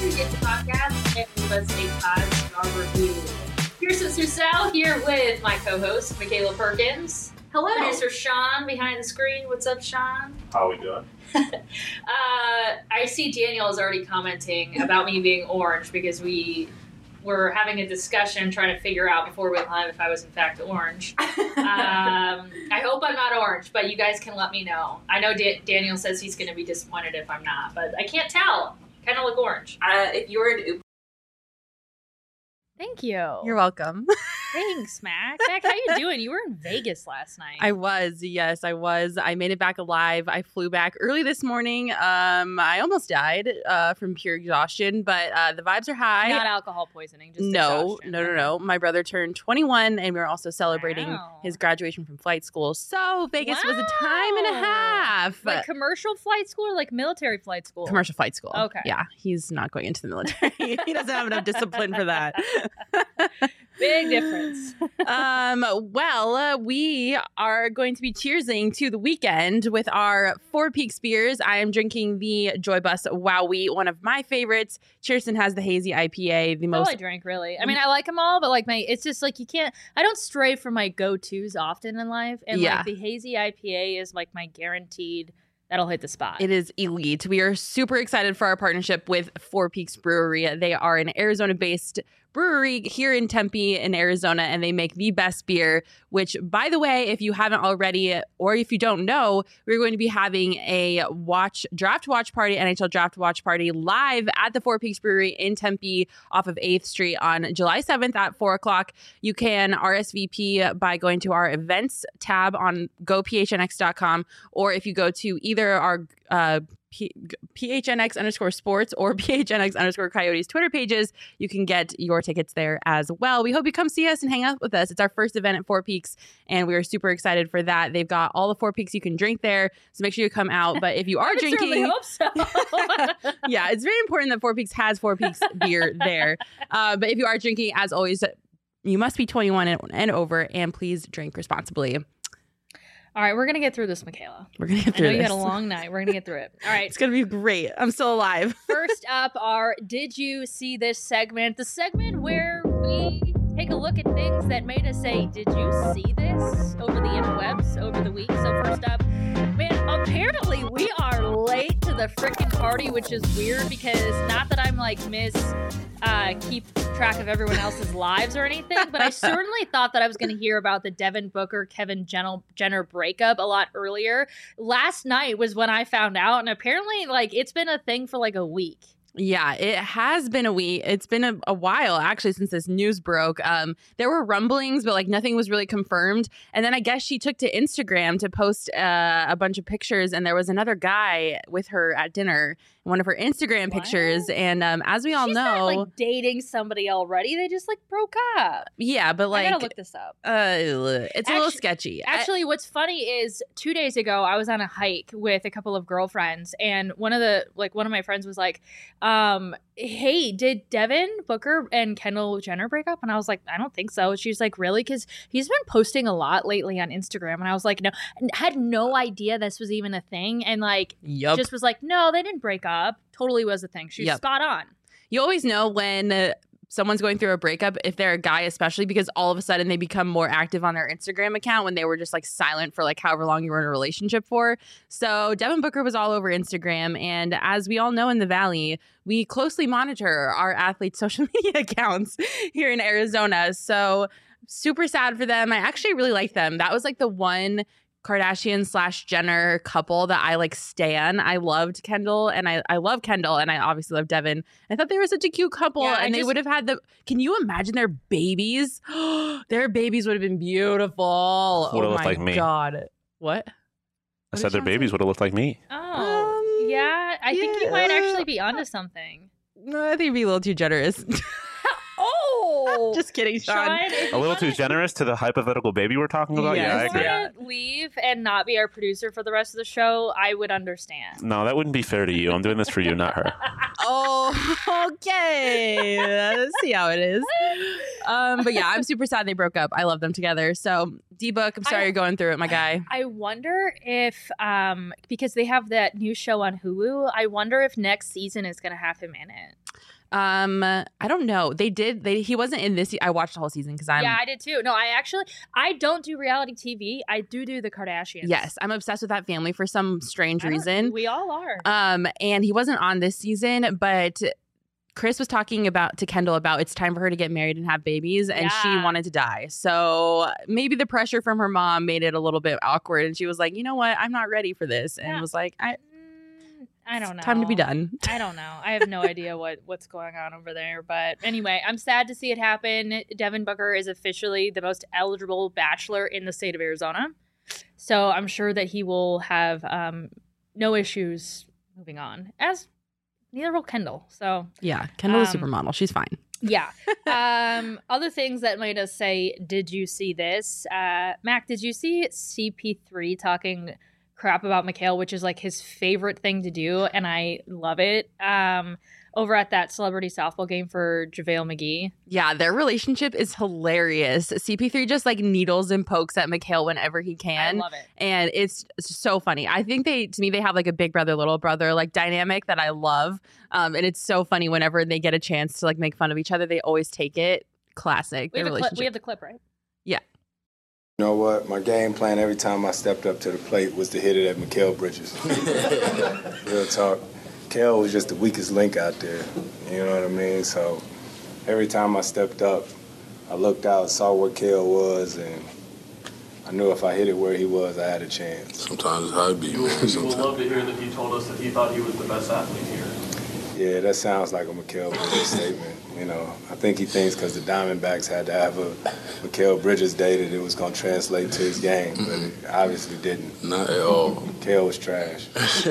to Get the Podcast and leave us a 5-star review. Here's Susel here with my co-host, Michaela Perkins. Hello. Producer Sean behind the screen. What's up, Sean? How are we doing? I see Daniel is already commenting about me being orange because we were having a discussion trying to figure out before we went live if I was in fact orange. I hope I'm not orange, but you guys can let me know. I know Daniel says he's going to be disappointed if I'm not, but I can't tell. Kind of look orange. If you were an Thank you. You're welcome. Thanks, Mac. Mac, how you doing? You were in Vegas last night. I was. Yes, I was. I made it back alive. I flew back early this morning. I almost died from pure exhaustion, but the vibes are high. Not alcohol poisoning, just No. exhaustion. My brother turned 21, and we were also celebrating his graduation from flight school. So Vegas was a time and a half. Like commercial flight school or like military flight school? Commercial flight school. Okay. Yeah, he's not going into the military. He doesn't have enough discipline for that. Big difference. We are going to be cheersing to the weekend with our Four Peaks beers. I am drinking the Joy Bus Wowie, one of my favorites. Cheerson has the hazy IPA, the most. I drank really. I mean, I like them all, but like it's just like you can't. I don't stray from my go-tos often in life, and like the hazy IPA is like my guaranteed. That'll hit the spot. It is elite. We are super excited for our partnership with Four Peaks Brewery. They are an Arizona-based brewery here in Tempe in Arizona, and they make the best beer, which, by the way, if you haven't already, or if you don't know, we're going to be having a draft watch party, NHL draft watch party live at the Four Peaks Brewery in Tempe off of 8th Street on July 7th at 4 o'clock. You can RSVP by going to our events tab on gophnx.com, or if you go to either our PHNX_sports or PHNX_coyotes Twitter pages, you can get your tickets there as well. We hope you come see us and hang out with us. It's our first event at Four Peaks, and we are super excited for that. They've got all the Four Peaks you can drink there, so make sure you come out. But if you are drinking, hope so. yeah, it's very important that Four Peaks has Four Peaks beer there. But if you are drinking, as always, you must be 21 and over, and please drink responsibly. All right, we're going to get through this, Michaela. We're going to get through this. You had a long night. We're going to get through it. All right. It's going to be great. I'm still alive. First up, our Did You See This segment? The segment where we take a look at things that made us say, did you see this over the interwebs over the week? So first up, man, apparently we are late to the freaking party, which is weird because not that I'm like keep track of everyone else's lives or anything, but I certainly thought that I was going to hear about the Devin Booker, Kevin Jenner breakup a lot earlier. Last night was when I found out, and apparently like it's been a thing for like a week. Yeah, it has been a week. It's been a while, actually, since this news broke. There were rumblings, but like nothing was really confirmed. And then I guess she took to Instagram to post a bunch of pictures, and there was another guy with her at dinner in one of her Instagram pictures. And as we all She's know, not, like dating somebody already. They just like broke up. Yeah, but like I gotta look this up. It's a little sketchy. Actually, what's funny is 2 days ago I was on a hike with a couple of girlfriends, and one of my friends was like, hey, did Devin Booker and Kendall Jenner break up? And I was like, I don't think so. She's like, really? Because he's been posting a lot lately on Instagram. And I was like, no, had no idea this was even a thing. And like, just was like, no, they didn't break up. Totally was a thing. She's spot on. You always know when someone's going through a breakup, if they're a guy especially, because all of a sudden they become more active on their Instagram account when they were just like silent for like however long you were in a relationship for. So Devin Booker was all over Instagram, and as we all know in the Valley, we closely monitor our athletes' social media accounts here in Arizona. So super sad for them. I actually really like them. That was like the one Kardashian/Jenner couple that I like stan. I loved Kendall, and I love Kendall, and I obviously love Devin. I thought they were such a cute couple, and they would have had can you imagine their babies? Their babies would have been beautiful. Would have looked like me. God. What? I said their babies would have looked like me. Oh, yeah. I think you might actually be onto something. No, I think you'd be a little too generous. Oh, just kidding, Sean. A little too generous to the hypothetical baby we're talking about. Yes. Yeah, I agree. If you want to leave and not be our producer for the rest of the show, I would understand. No, that wouldn't be fair to you. I'm doing this for you, not her. Oh, okay. Let's see how it is. But yeah, I'm super sad they broke up. I love them together. So D-Book, I'm sorry you're going through it, my guy. I wonder if, because they have that new show on Hulu, I wonder if next season is going to have him in it. I don't know. He wasn't in this. I watched the whole season because Yeah, I did too. No, I don't do reality TV. I do the Kardashians. Yes, I'm obsessed with that family for some strange reason. We all are. And he wasn't on this season, but Chris was talking to Kendall about it's time for her to get married and have babies, and she wanted to die. So maybe the pressure from her mom made it a little bit awkward, and she was like, you know what, I'm not ready for this, and was like, I don't know. Time to be done. I don't know. I have no idea what's going on over there. But anyway, I'm sad to see it happen. Devin Booker is officially the most eligible bachelor in the state of Arizona. So I'm sure that he will have no issues moving on. As neither will Kendall. So yeah, Kendall's a supermodel. She's fine. Yeah. Other things that made us say, did you see this? Mac, did you see CP3 talking crap about Mikhail, which is like his favorite thing to do, and I love it. Over at that celebrity softball game for JaVale McGee. Yeah, their relationship is hilarious. CP3 just like needles and pokes at Mikhail whenever he can. I love it. And it's so funny. I think they have like a big brother, little brother like dynamic that I love. And it's so funny whenever they get a chance to like make fun of each other, they always take it. Classic. We have the clip, right? Yeah. You know what? My game plan every time I stepped up to the plate was to hit it at Mikal Bridges. Real talk. Mikal was just the weakest link out there. You know what I mean? So every time I stepped up, I looked out, saw where Mikal was, and I knew if I hit it where he was, I had a chance. Sometimes it's how it be, man. You would love to hear that he told us that he thought he was the best athlete here. Yeah, that sounds like a Mikal Bridges statement. You know, I think he thinks because the Diamondbacks had to have a Mikal Bridges day that it was going to translate to his game, but it obviously didn't. Not at all. Mikal was trash.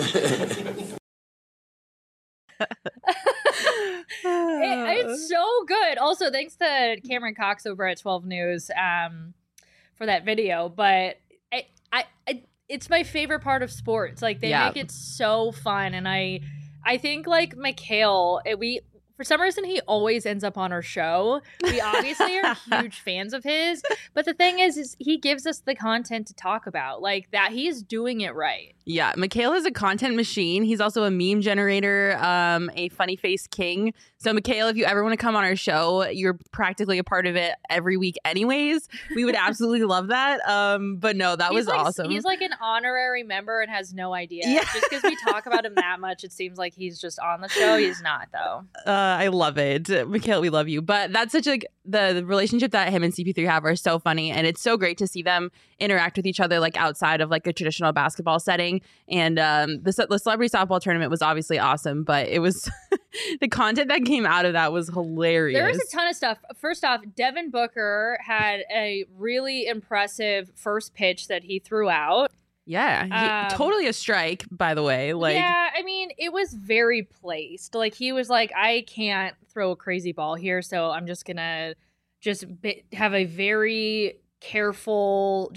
It's so good. Also, thanks to Cameron Cox over at 12 News for that video. But it's my favorite part of sports. Like, they make it so fun. And I think, like, Mikal, for some reason, he always ends up on our show. We obviously are huge fans of his. But the thing is he gives us the content to talk about. Like, that he's doing it right. Yeah, Mikal is a content machine. He's also a meme generator, a funny face king. So, Mikal, if you ever want to come on our show, you're practically a part of it every week anyways. We would absolutely love that. But no, that was awesome. He's like an honorary member and has no idea. Yeah. Just because we talk about him that much, it seems like he's just on the show. He's not, though. I love it. Mikal, we love you. But that's such the relationship that him and CP3 have are so funny. And it's so great to see them interact with each other, like outside of like a traditional basketball setting. And the celebrity softball tournament was obviously awesome, but it was the content that came out of that was hilarious. There was a ton of stuff. First off, Devin Booker had a really impressive first pitch that he threw out. Yeah, totally a strike, by the way. Like, yeah, I mean, it was very placed. Like, he was like, I can't throw a crazy ball here, so I'm just gonna have a very careful,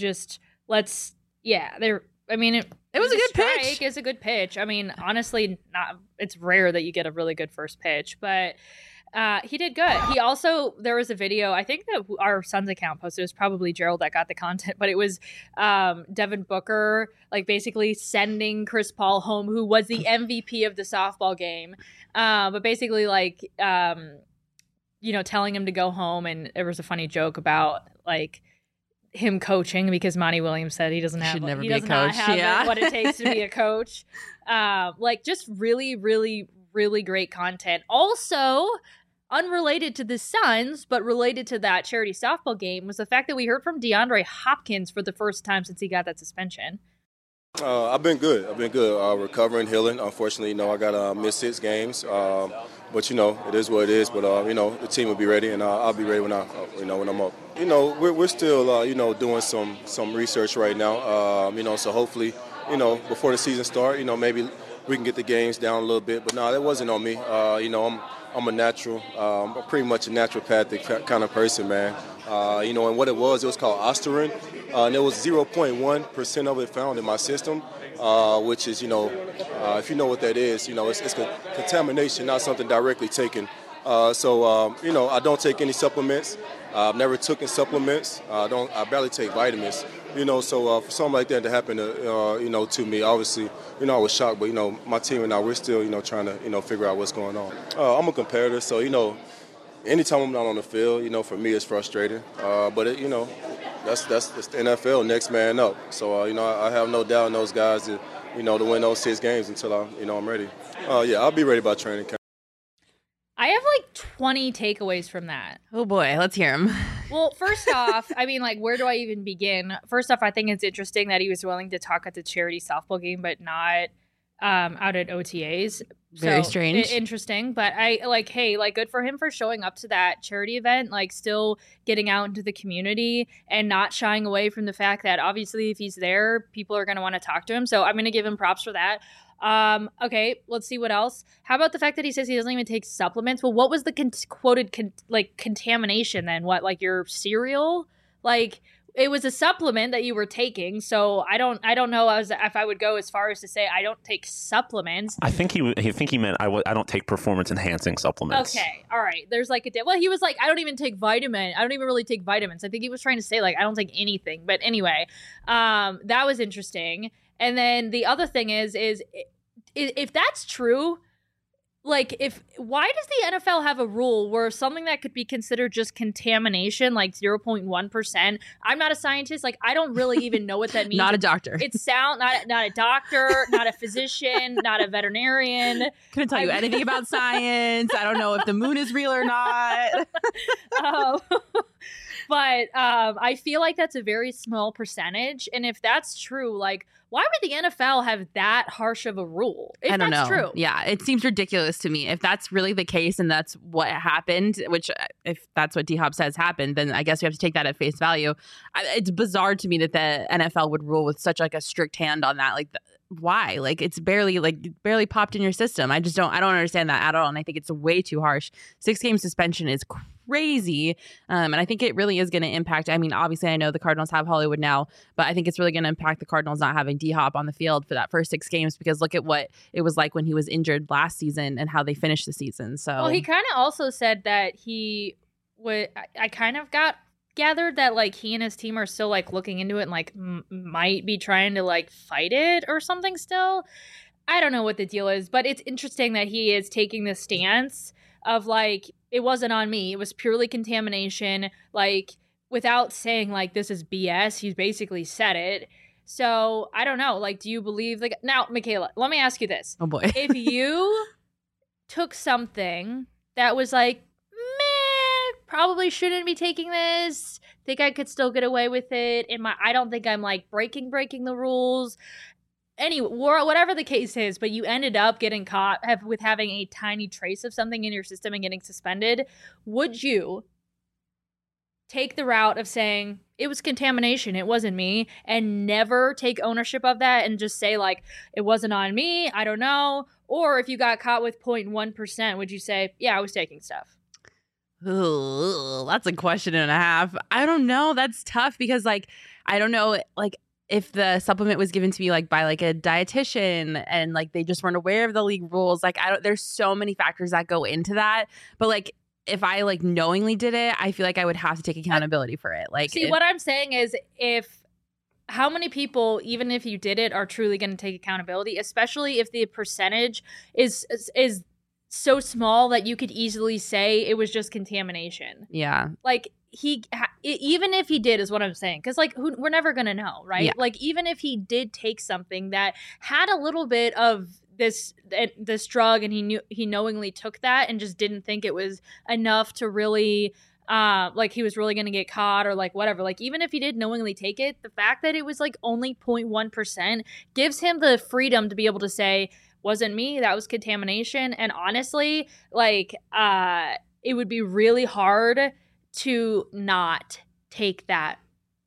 I mean, it was a good pitch. It's a good pitch. I mean, honestly, it's rare that you get a really good first pitch, but he did good. He also, there was a video, I think that our son's account posted, it was probably Gerald that got the content, but it was Devin Booker, like, basically sending Chris Paul home, who was the MVP of the softball game, but basically, like, telling him to go home, and there was a funny joke about, like, him coaching because Monty Williams said he doesn't have what it takes to be a coach. Like, just really, really, really great content. Also, unrelated to the Suns, but related to that charity softball game, was the fact that we heard from DeAndre Hopkins for the first time since he got that suspension. I've been good. Recovering, healing. Unfortunately, I got missed 6 games. But it is what it is. But the team will be ready, and I'll be ready when I'm up. We're still doing some research right now. So hopefully, before the season starts, maybe we can get the games down a little bit. But no, that wasn't on me. I'm a natural. I'm pretty much a naturopathic kind of person, man. And what it was called Osterin, and there was 0.1% of it found in my system, which is, if you know what that is, it's contamination, not something directly taken. I don't take any supplements. I've never taken supplements. I barely take vitamins. So for something like that to happen, to me, obviously, I was shocked. But, my team and I, we're still, trying to, figure out what's going on. I'm a competitor, so, anytime I'm not on the field, for me it's frustrating. But, that's the NFL, next man up. So, I have no doubt in those guys to win those 6 games until I'm ready. I'll be ready by training camp. I have 20 takeaways from that. Oh boy, let's hear him. Well, first off, where do I even begin? First off, I think it's interesting that he was willing to talk at the charity softball game, but not out at OTAs. Very strange. Interesting, but I good for him for showing up to that charity event, still getting out into the community and not shying away from the fact that obviously if he's there, people are going to want to talk to him. So I'm going to give him props for that. Okay, let's see what else. How about the fact that he says he doesn't even take supplements? Well, what was the quoted contamination then? What, your cereal? It was a supplement that you were taking, so I don't know if I would go as far as to say I don't take supplements. I think he meant I don't take performance enhancing supplements. Okay, all right. There's he was I don't even take I don't even really take vitamins. I think he was trying to say I don't take anything. But anyway, that was interesting. And then the other thing is if that's true, why does the NFL have a rule where something that could be considered just contamination, 0.1%? I'm not a scientist. I don't really even know what that means. Not a doctor. It's not a doctor, not a physician, not a veterinarian. Couldn't tell you anything about science. I don't know if the moon is real or not. But I feel like that's a very small percentage. And if that's true, why would the NFL have that harsh of a rule? If I don't that's know. True. Yeah, it seems ridiculous to me. If that's really the case and that's what happened, which if that's what D-Hop says happened, then I guess we have to take that at face value. It's bizarre to me that the NFL would rule with such a strict hand on that. Why? It's barely popped in your system. I don't understand that at all. And I think it's way too harsh. 6-game suspension is crazy. And I think it really is going to impact. Obviously I know the Cardinals have Hollywood now, but I think it's really going to impact the Cardinals not having D-Hop on the field for that first 6 games, because look at what it was like when he was injured last season and how they finished the season. So, well, he kind of also said that he would, I kind of got gathered that he and his team are still looking into it and might be trying to fight it or something still. I don't know what the deal is, but it's interesting that he is taking this stance of it wasn't on me, it was purely contamination, without saying this is BS. He's basically said it. So I don't know, do you believe now, Michaela, let me ask you this. Oh boy. If you took something that was probably shouldn't be taking this, think I could still get away with it, I don't think I'm breaking the rules, anyway, whatever the case is, but you ended up getting caught with having a tiny trace of something in your system and getting suspended, would you take the route of saying it was contamination, it wasn't me, and never take ownership of that and just say it wasn't on me, I don't know? Or if you got caught with 0.1%, would you say, yeah, I was taking stuff? Ooh, that's a question and a half. I don't know. That's tough because I don't know if the supplement was given to me by a dietitian and they just weren't aware of the league rules. There's so many factors that go into that. But if I knowingly did it, I feel I would have to take accountability for it. What I'm saying is how many people, even if you did it, are truly going to take accountability, especially if the percentage is so small that you could easily say it was just contamination. Yeah. Even if he did, is what I'm saying. Because, we're never going to know, right? Yeah. Even if he did take something that had a little bit of this drug and he knowingly took that and just didn't think it was enough to really, he was really going to get caught or whatever. Even if he did knowingly take it, the fact that it was only 0.1% gives him the freedom to be able to say, wasn't me, that was contamination. And honestly, it would be really hard to not take that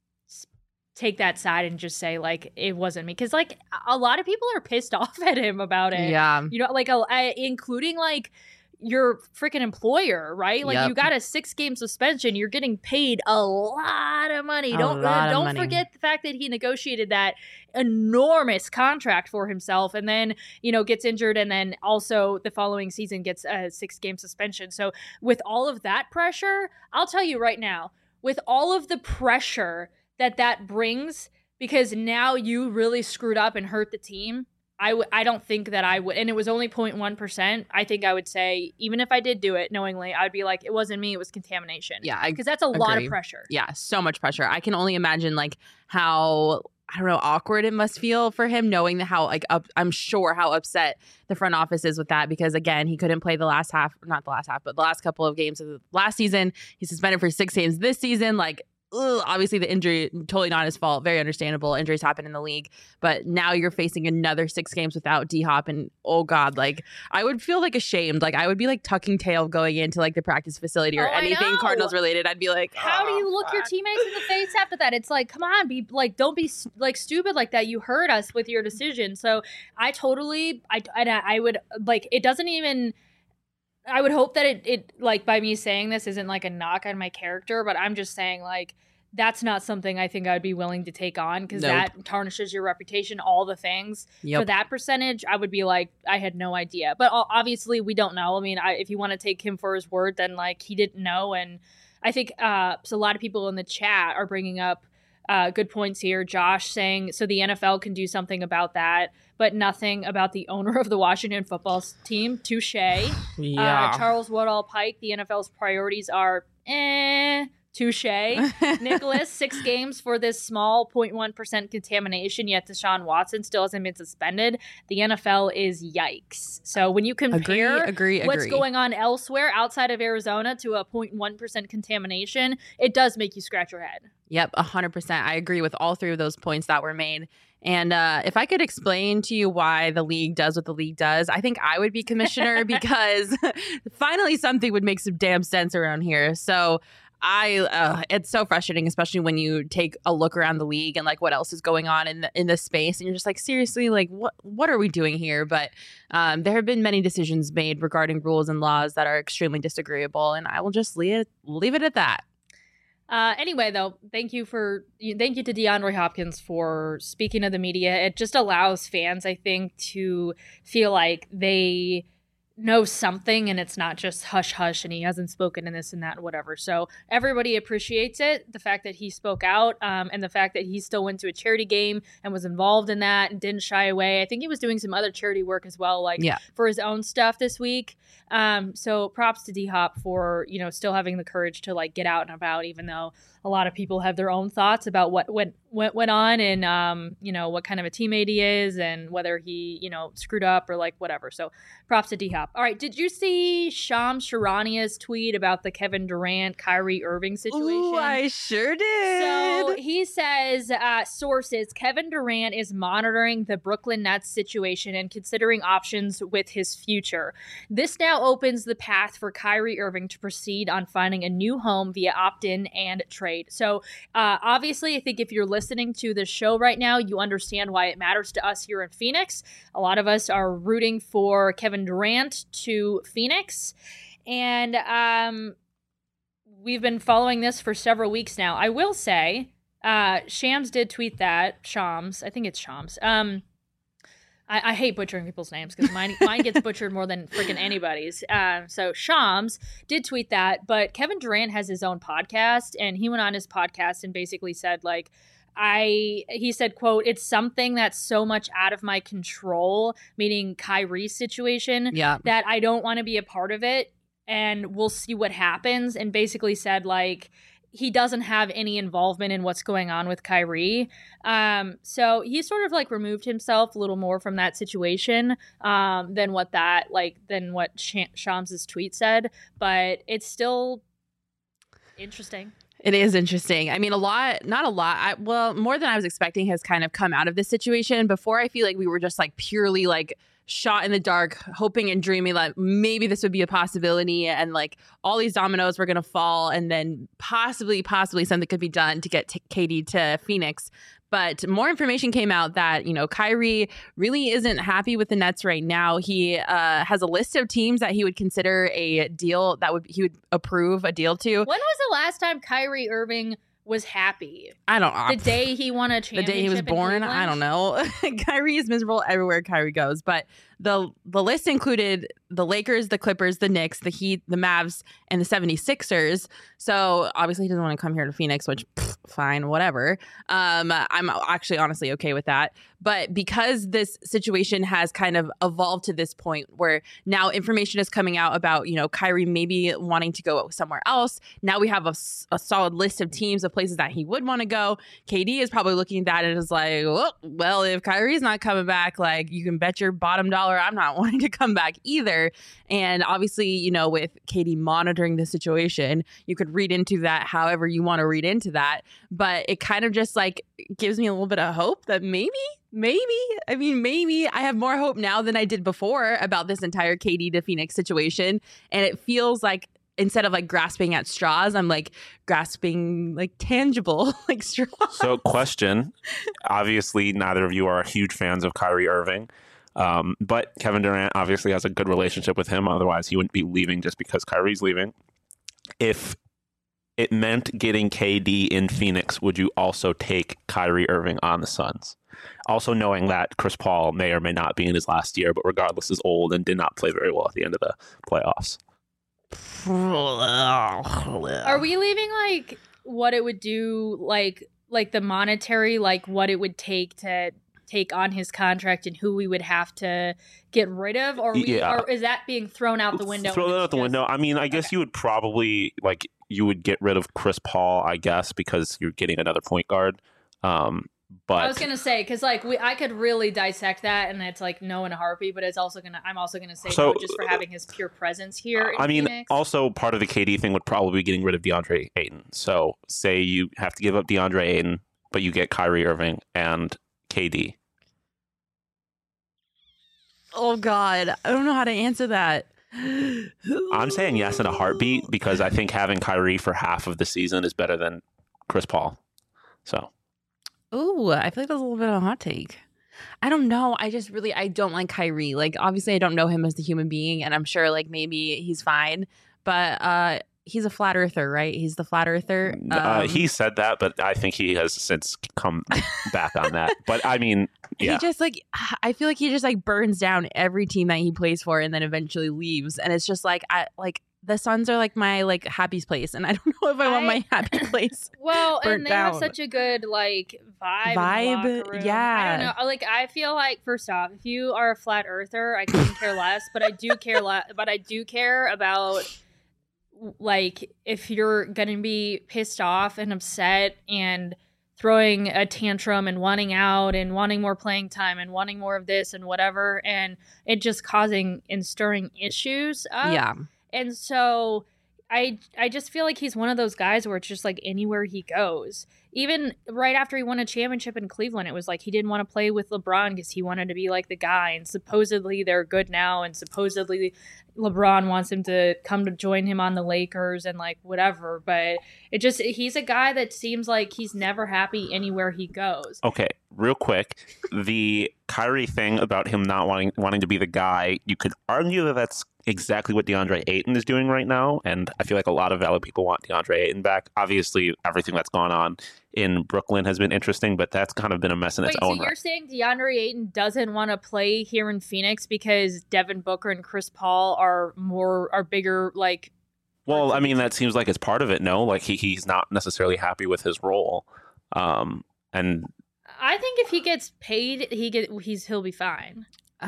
side and just say it wasn't me, because a lot of people are pissed off at him about it. Yeah, including your freaking employer, right? Yep. You got a 6-game suspension. You're getting paid a lot of money. Don't forget the fact that he negotiated that enormous contract for himself and then, gets injured and then also the following season gets a 6-game suspension. So with all of that pressure, I'll tell you right now, with all of the pressure that brings, because now you really screwed up and hurt the team. I don't think that I would, and it was only 0.1%. I think I would say, even if I did do it knowingly, I'd be like, it wasn't me, it was contamination. Yeah, because that's a lot of agree. pressure. Yeah, so much pressure. I can only imagine like how, I don't know, awkward it must feel for him knowing how like I'm sure how upset the front office is with that, because again, he couldn't play the last couple of games of the last season. He's suspended for 6 games this season. Like, obviously the injury, totally not his fault. Very understandable. Injuries happen in the league. But now you're facing another 6 games without D-Hop. And oh God, like I would feel like ashamed. Like I would be like tucking tail going into like the practice facility or anything Cardinals related. I'd be like, how do you look your teammates in the face after that? It's like, come on, be like, don't be like stupid like that. You hurt us with your decision. So I would like, it doesn't even, I would hope that it like by me saying this isn't like a knock on my character, but I'm just saying like that's not something I think I'd be willing to take on, because that tarnishes your reputation, all the things. For that percentage, I would be like, I had no idea. But obviously we don't know. I mean, if you want to take him for his word, then like he didn't know. And I think so a lot of people in the chat are bringing up good points here. Josh saying, so the NFL can do something about that, but nothing about the owner of the Washington football team. Touche. Yeah. Charles Woodall Pike, the NFL's priorities are touche. Nicholas, 6 games for this small 0.1% contamination, yet Deshaun Watson still hasn't been suspended. The NFL is yikes. So when you compare what's going on elsewhere outside of Arizona to a 0.1% contamination, it does make you scratch your head. Yep, 100%. I agree with all 3 of those points that were made. And if I could explain to you why the league does what the league does, I think I would be commissioner because finally something would make some damn sense around here. So it's so frustrating, especially when you take a look around the league and like what else is going on in this space, and you're just like, seriously, like what are we doing here? But there have been many decisions made regarding rules and laws that are extremely disagreeable, and I will just leave it at that. Anyway, though, thank you to DeAndre Hopkins for speaking to the media. It just allows fans, I think, to feel like they know something and it's not just hush hush and he hasn't spoken in this and that and whatever. So everybody appreciates it, the fact that he spoke out, and the fact that he still went to a charity game and was involved in that and didn't shy away. I think he was doing some other charity work as well, for his own stuff this week. So props to D-Hop for, still having the courage to like get out and about, even though a lot of people have their own thoughts about what went on and, what kind of a teammate he is and whether he, screwed up or like whatever. So props to D-Hop. All right. Did you see Shams Charania's tweet about the Kevin Durant, Kyrie Irving situation? Ooh, I sure did. So he says, sources, Kevin Durant is monitoring the Brooklyn Nets situation and considering options with his future. This now opens the path for Kyrie Irving to proceed on finding a new home via opt-in and trade. So obviously, I think if you're listening to the show right now, you understand why it matters to us here in Phoenix. A lot of us are rooting for Kevin Durant to Phoenix. And we've been following this for several weeks now. I will say, Shams did tweet that. Shams. I think it's Shams. I hate butchering people's names because mine gets butchered more than freaking anybody's. So Shams did tweet that, but Kevin Durant has his own podcast, and he went on his podcast and basically said, like, he said, quote, it's something that's so much out of my control, meaning Kyrie's situation, that I don't want to be a part of it, and we'll see what happens, and basically said, like, he doesn't have any involvement in what's going on with Kyrie. So he sort of like removed himself a little more from that situation than what Shams's tweet said. But it's still interesting. It is interesting. I mean, more than I was expecting has kind of come out of this situation. Before, I feel like we were just like purely like shot in the dark, hoping and dreaming that maybe this would be a possibility and like all these dominoes were going to fall and then possibly something could be done to get KD to Phoenix. But more information came out that, Kyrie really isn't happy with the Nets right now. He has a list of teams that he would consider a deal he would approve a deal to. When was the last time Kyrie Irving was happy I don't the day he won a the championship. day he was in born. I don't Cleveland? know. Kyrie is miserable everywhere Kyrie goes. But the list included the Lakers, the Clippers, the Knicks, the Heat, the Mavs, and the 76ers. So obviously he doesn't want to come here to Phoenix, which fine, whatever. I'm actually honestly okay with that. But because this situation has kind of evolved to this point where now information is coming out about, Kyrie maybe wanting to go somewhere else. Now we have a solid list of teams, of places that he would want to go. KD is probably looking at that and is like, well, if Kyrie's not coming back, like you can bet your bottom dollar I'm not wanting to come back either. And obviously, with KD monitoring the situation, you could read into that however you want to read into that. But it kind of just like gives me a little bit of hope that maybe I have more hope now than I did before about this entire KD to Phoenix situation. And it feels like instead of like grasping at straws, I'm like grasping like tangible like straws. So question, obviously neither of you are huge fans of Kyrie Irving. But Kevin Durant obviously has a good relationship with him. Otherwise, he wouldn't be leaving just because Kyrie's leaving. If it meant getting KD in Phoenix, would you also take Kyrie Irving on the Suns? Also knowing that Chris Paul may or may not be in his last year, but regardless is old and did not play very well at the end of the playoffs. Are we leaving like what it would do, like the monetary, like what it would take to take on his contract and who we would have to get rid of, or is that being thrown out the window? Throw that out the window. I mean, I guess you would probably you would get rid of Chris Paul, I guess, because you're getting another point guard. But I was gonna say because I could really dissect that, and it's like no in a heartbeat. But I'm also gonna say no just for having his pure presence here. In Phoenix. Also part of the KD thing would probably be getting rid of DeAndre Ayton. So say you have to give up DeAndre Ayton, but you get Kyrie Irving and KD. Oh God, I don't know how to answer that. I'm saying yes in a heartbeat because I think having Kyrie for half of the season is better than Chris Paul. So. Ooh, I feel like that's a little bit of a hot take. I don't know. I don't like Kyrie. Like, obviously, I don't know him as a human being, and I'm sure, like, maybe he's fine. But he's a flat earther, right? He's the flat earther. He said that, but I think he has since come back on that. But, I mean, yeah. He just, I feel like he just, burns down every team that he plays for and then eventually leaves. And it's just, the Suns are my happy place, and I don't know if I want my happy place. Well, and they down. have such a good vibe. In the locker room. Yeah. I don't know. I feel like first off, if you are a flat earther, I couldn't care less. But I do care But I do care about if you're gonna be pissed off and upset and throwing a tantrum and wanting out and wanting more playing time and wanting more of this and whatever, and it just causing and stirring issues up. Yeah. And so I just feel like he's one of those guys where it's just anywhere he goes. Even right after he won a championship in Cleveland, it was he didn't want to play with LeBron because he wanted to be the guy. And supposedly they're good now. And supposedly LeBron wants him to come to join him on the Lakers and whatever. But he's a guy that seems like he's never happy anywhere he goes. Okay, real quick. The Kyrie thing about him not wanting to be the guy, you could argue that that's exactly what DeAndre Ayton is doing right now, and I feel like a lot of valid people want DeAndre Ayton back. Obviously, everything that's gone on in Brooklyn has been interesting, but that's kind of been a mess in its own right. So you're saying DeAndre Ayton doesn't want to play here in Phoenix because Devin Booker and Chris Paul are bigger, Well, I mean, that seems like it's part of it, no? He's not necessarily happy with his role. And I think if he gets paid, he'll be fine.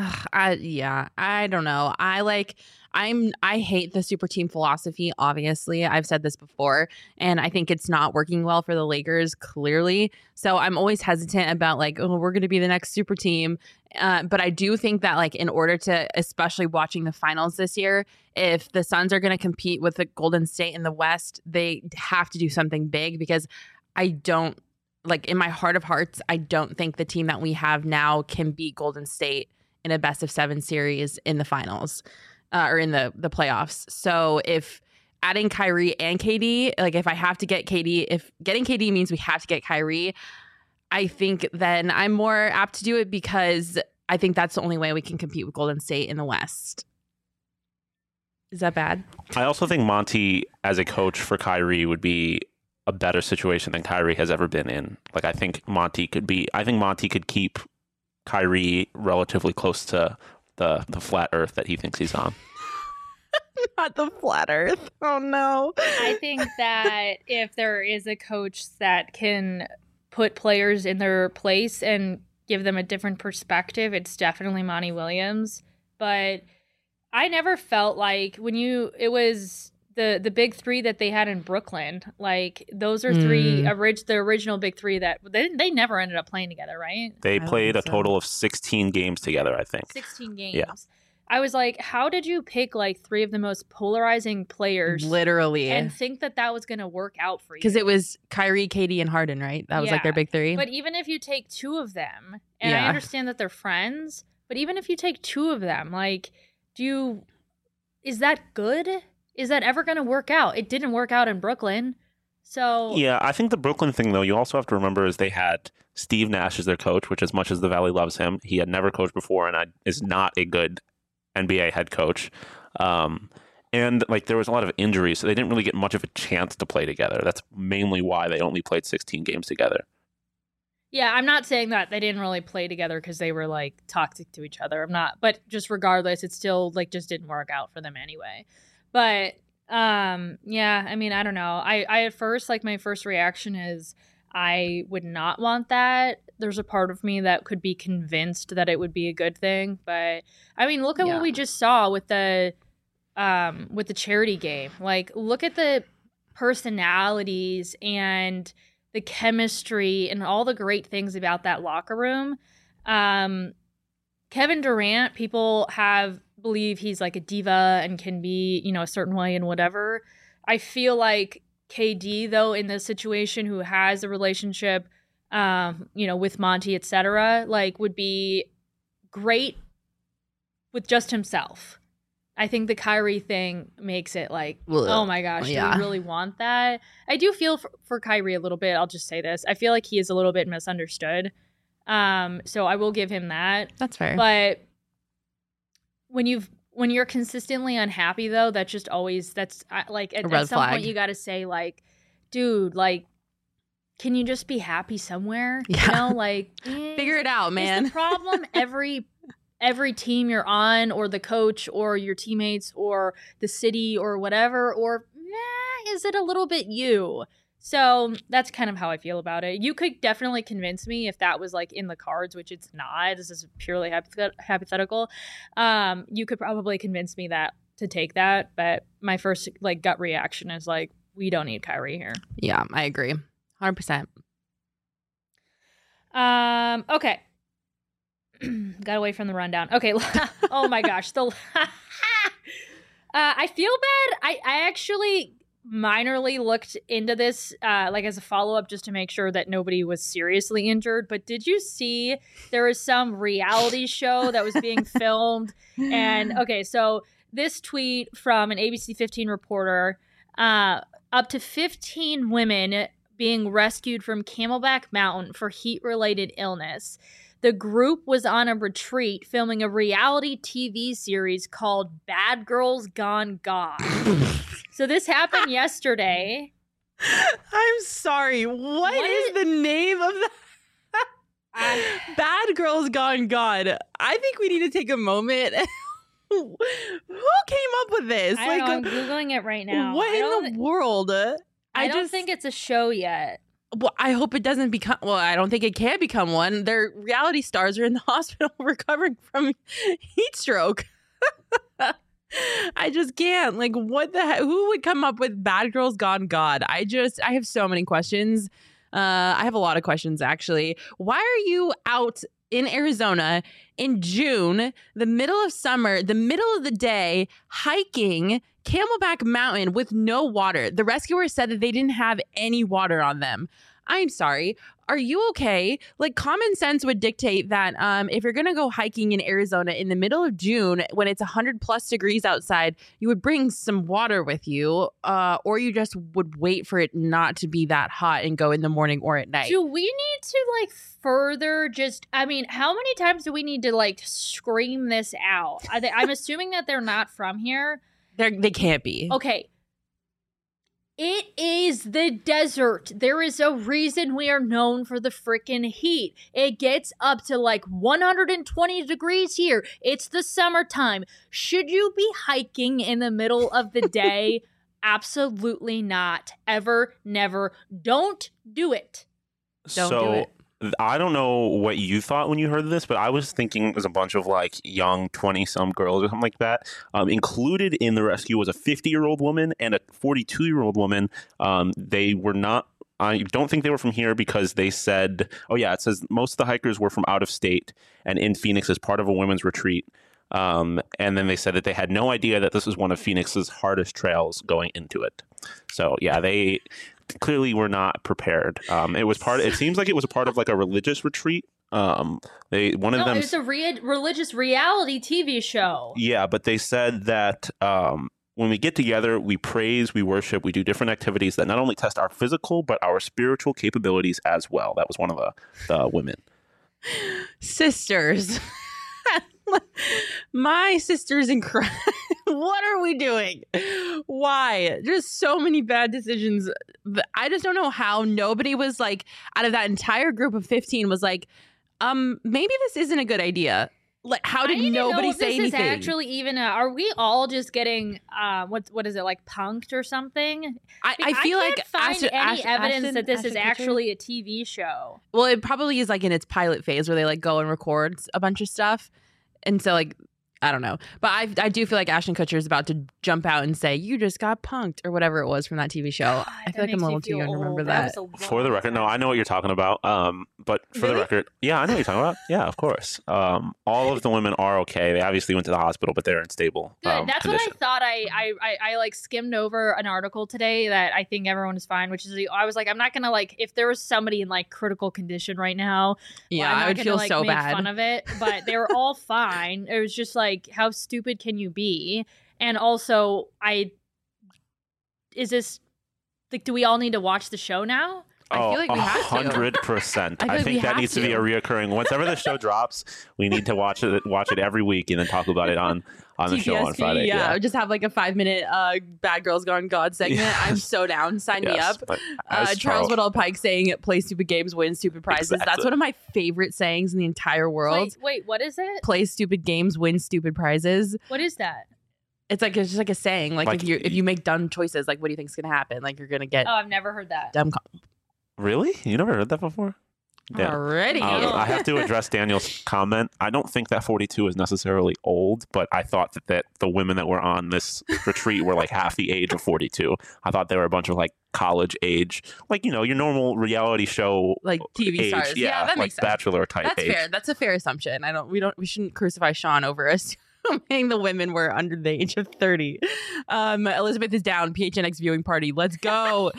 I don't know. I hate the super team philosophy. Obviously, I've said this before, and I think it's not working well for the Lakers, clearly. So I'm always hesitant about we're going to be the next super team. But I do think that in order to, especially watching the finals this year, if the Suns are going to compete with the Golden State in the West, they have to do something big because I don't in my heart of hearts, I don't think the team that we have now can beat Golden State in a best of 7 series in the finals or in the playoffs. So if adding Kyrie and KD, if I have to get KD, if getting KD means we have to get Kyrie, I think then I'm more apt to do it because I think that's the only way we can compete with Golden State in the West. Is that bad? I also think Monty, as a coach for Kyrie, would be a better situation than Kyrie has ever been in. Like, I think Monty could keep Kyrie relatively close to the flat earth that he thinks he's on. Not the flat earth. Oh no. I think that if there is a coach that can put players in their place and give them a different perspective, it's definitely Monty Williams. But I never felt like it was the big three that they had in Brooklyn. Like, those are the original big three that they never ended up playing together, right? They played a so. total of 16 games together, I think. 16 games. Yeah. I was like, how did you pick like three of the most polarizing players Literally. and think that was going to work out for you? Because it was Kyrie, Katie, and Harden, right? That was like their big three. But even if you take two of them, and Yeah. I understand that they're friends, but even if you take two of them, like, is that good? Is that ever going to work out? It didn't work out in Brooklyn. So Yeah, I think the Brooklyn thing, though, you also have to remember is they had Steve Nash as their coach, which, as much as the Valley loves him, he had never coached before and is not a good NBA head coach. And like, there was a lot of injuries, so they didn't really get much of a chance to play together. That's mainly why they only played 16 games together. yeah, I'm not saying that they didn't really play together because they were like toxic to each other. I'm not, but just regardless, it still like just didn't work out for them anyway. But yeah, I mean, I don't know. I at first, like, my first reaction is I would not want that. There's a part of me that could be convinced that it would be a good thing, but I mean, look at what we just saw with the charity game. Like, look at the personalities and the chemistry and all the great things about that locker room. Kevin Durant, people believe he's like a diva and can be, a certain way and whatever. I feel like KD, though, in this situation, who has a relationship, with Monty, etc., like, would be great with just himself. I think the Kyrie thing makes it like, oh my gosh, do we really want that? I do feel for Kyrie a little bit. I'll just say this. I feel like he is a little bit misunderstood. So I will give him that. That's fair. But when you're consistently unhappy, though, that's like at some point you got to say, like, dude, like, can you just be happy somewhere? Yeah. Like, figure it out, man. Is the problem every team you're on, or the coach, or your teammates, or the city, or whatever, or is it a little bit you? So that's kind of how I feel about it. You could definitely convince me if that was like in the cards, which it's not. This is purely hypothetical. You could probably convince me to take that, but my first like gut reaction is like, we don't need Kyrie here. Yeah, I agree. 100%. Okay. Got away from the rundown. Okay. Oh my gosh. I feel bad. I actually minorly looked into this like as a follow-up just to make sure that nobody was seriously injured. But did you see there was some reality show that was being filmed? And okay, so this tweet from an ABC 15 reporter, up to 15 women being rescued from Camelback Mountain for heat-related illness. The group was on a retreat filming a reality TV series called Bad Girls Gone God. So this happened yesterday. I'm sorry. What is the name of that? Bad Girls Gone God. I think we need to take a moment. Who came up with this? I don't know, I'm Googling it right now. What in the world? I don't think it's a show yet. Well, I hope it doesn't become. Well, I don't think it can become one. Their reality stars are in the hospital recovering from heat stroke. I just can't. Like, what the heck? Who would come up with Bad Girls Gone God? I have so many questions. I have a lot of questions, actually. Why are you out in Arizona in June, the middle of summer, the middle of the day, hiking Camelback Mountain with no water? The rescuers said that they didn't have any water on them. I'm sorry. Are you okay? Like, common sense would dictate that if you're going to go hiking in Arizona in the middle of June when it's 100+ degrees outside, you would bring some water with you, or you just would wait for it not to be that hot and go in the morning or at night. Do we need to like further how many times do we need to like scream this out? I'm assuming that they're not from here. They can't be. Okay. It is the desert. There is a reason we are known for the freaking heat. It gets up to like 120 degrees here. It's the summertime. Should you be hiking in the middle of the day? Absolutely not. Ever, never. Don't do it. Don't do it. I don't know what you thought when you heard this, but I was thinking it was a bunch of like young 20-some girls or something like that. Included in the rescue was a 50-year-old woman and a 42-year-old woman. They were not. I don't think they were from here because they said, oh yeah, it says most of the hikers were from out of state and in Phoenix as part of a women's retreat. And then they said that they had no idea that this was one of Phoenix's hardest trails going into it. So yeah, they clearly were not prepared. It seems like it was a part of like a religious retreat. It's a religious reality TV show. Yeah, but they said that when we get together, we praise, we worship, we do different activities that not only test our physical but our spiritual capabilities as well. That was one of the women. Sisters. My sister's incredible. What are we doing? Why? There's so many bad decisions. I just don't know how nobody was like, out of that entire group of 15 was like, maybe this isn't a good idea. Like, how did nobody say anything? This is actually even are we all just getting what is it, like, punked or something? I feel I can't like find any evidence that this is actually a TV show. Well, it probably is like in its pilot phase where they like go and record a bunch of stuff. And so, like, I don't know. But I do feel like Ashton Kutcher is about to jump out and say, you just got punked, or whatever it was from that TV show. God, I feel like I'm a little too young to remember that. For the record, no, I know what you're talking about. But for the record, yeah, I know what you're talking about. Yeah, of course. All of the women are okay. They obviously went to the hospital, but they're in stable Good. That's condition. what I thought. I like skimmed over an article today that I think everyone is fine, which is I was like, I'm not gonna like, if there was somebody in like critical condition right now, yeah, I would feel like, so make bad. fun of it, but they were all fine. It was just like, how stupid can you be? And also, is this like, do we all need to watch the show now? I feel like we have to. 100%. I I think that needs to be a reoccurring. Whenever the show drops, we need to watch it every week and then talk about it on the show on Friday. Yeah, just have like a 5-minute Bad Girls Gone God segment. Yes. I'm so down. Sign me up. As Charles Woodall Pike saying, play stupid games, win stupid prizes. Exactly. That's one of my favorite sayings in the entire world. Wait, what is it? Play stupid games, win stupid prizes. What is that? It's just like a saying. Like if you make dumb choices, like what do you think is gonna happen? Like you're gonna get Oh, I've never heard that. dumb. Really? You never heard that before? Yeah. Already. I have to address Daniel's comment. I don't think that 42 is necessarily old, but I thought that the women that were on this retreat were like half the age of 42. I thought they were a bunch of like college age, like, you know, your normal reality show like TV age. stars. Yeah, that like makes sense. Bachelor type That's age. fair. That's a fair assumption. We shouldn't crucify Sean over assuming the women were under the age of 30. Elizabeth is down. PHNX viewing party. Let's go.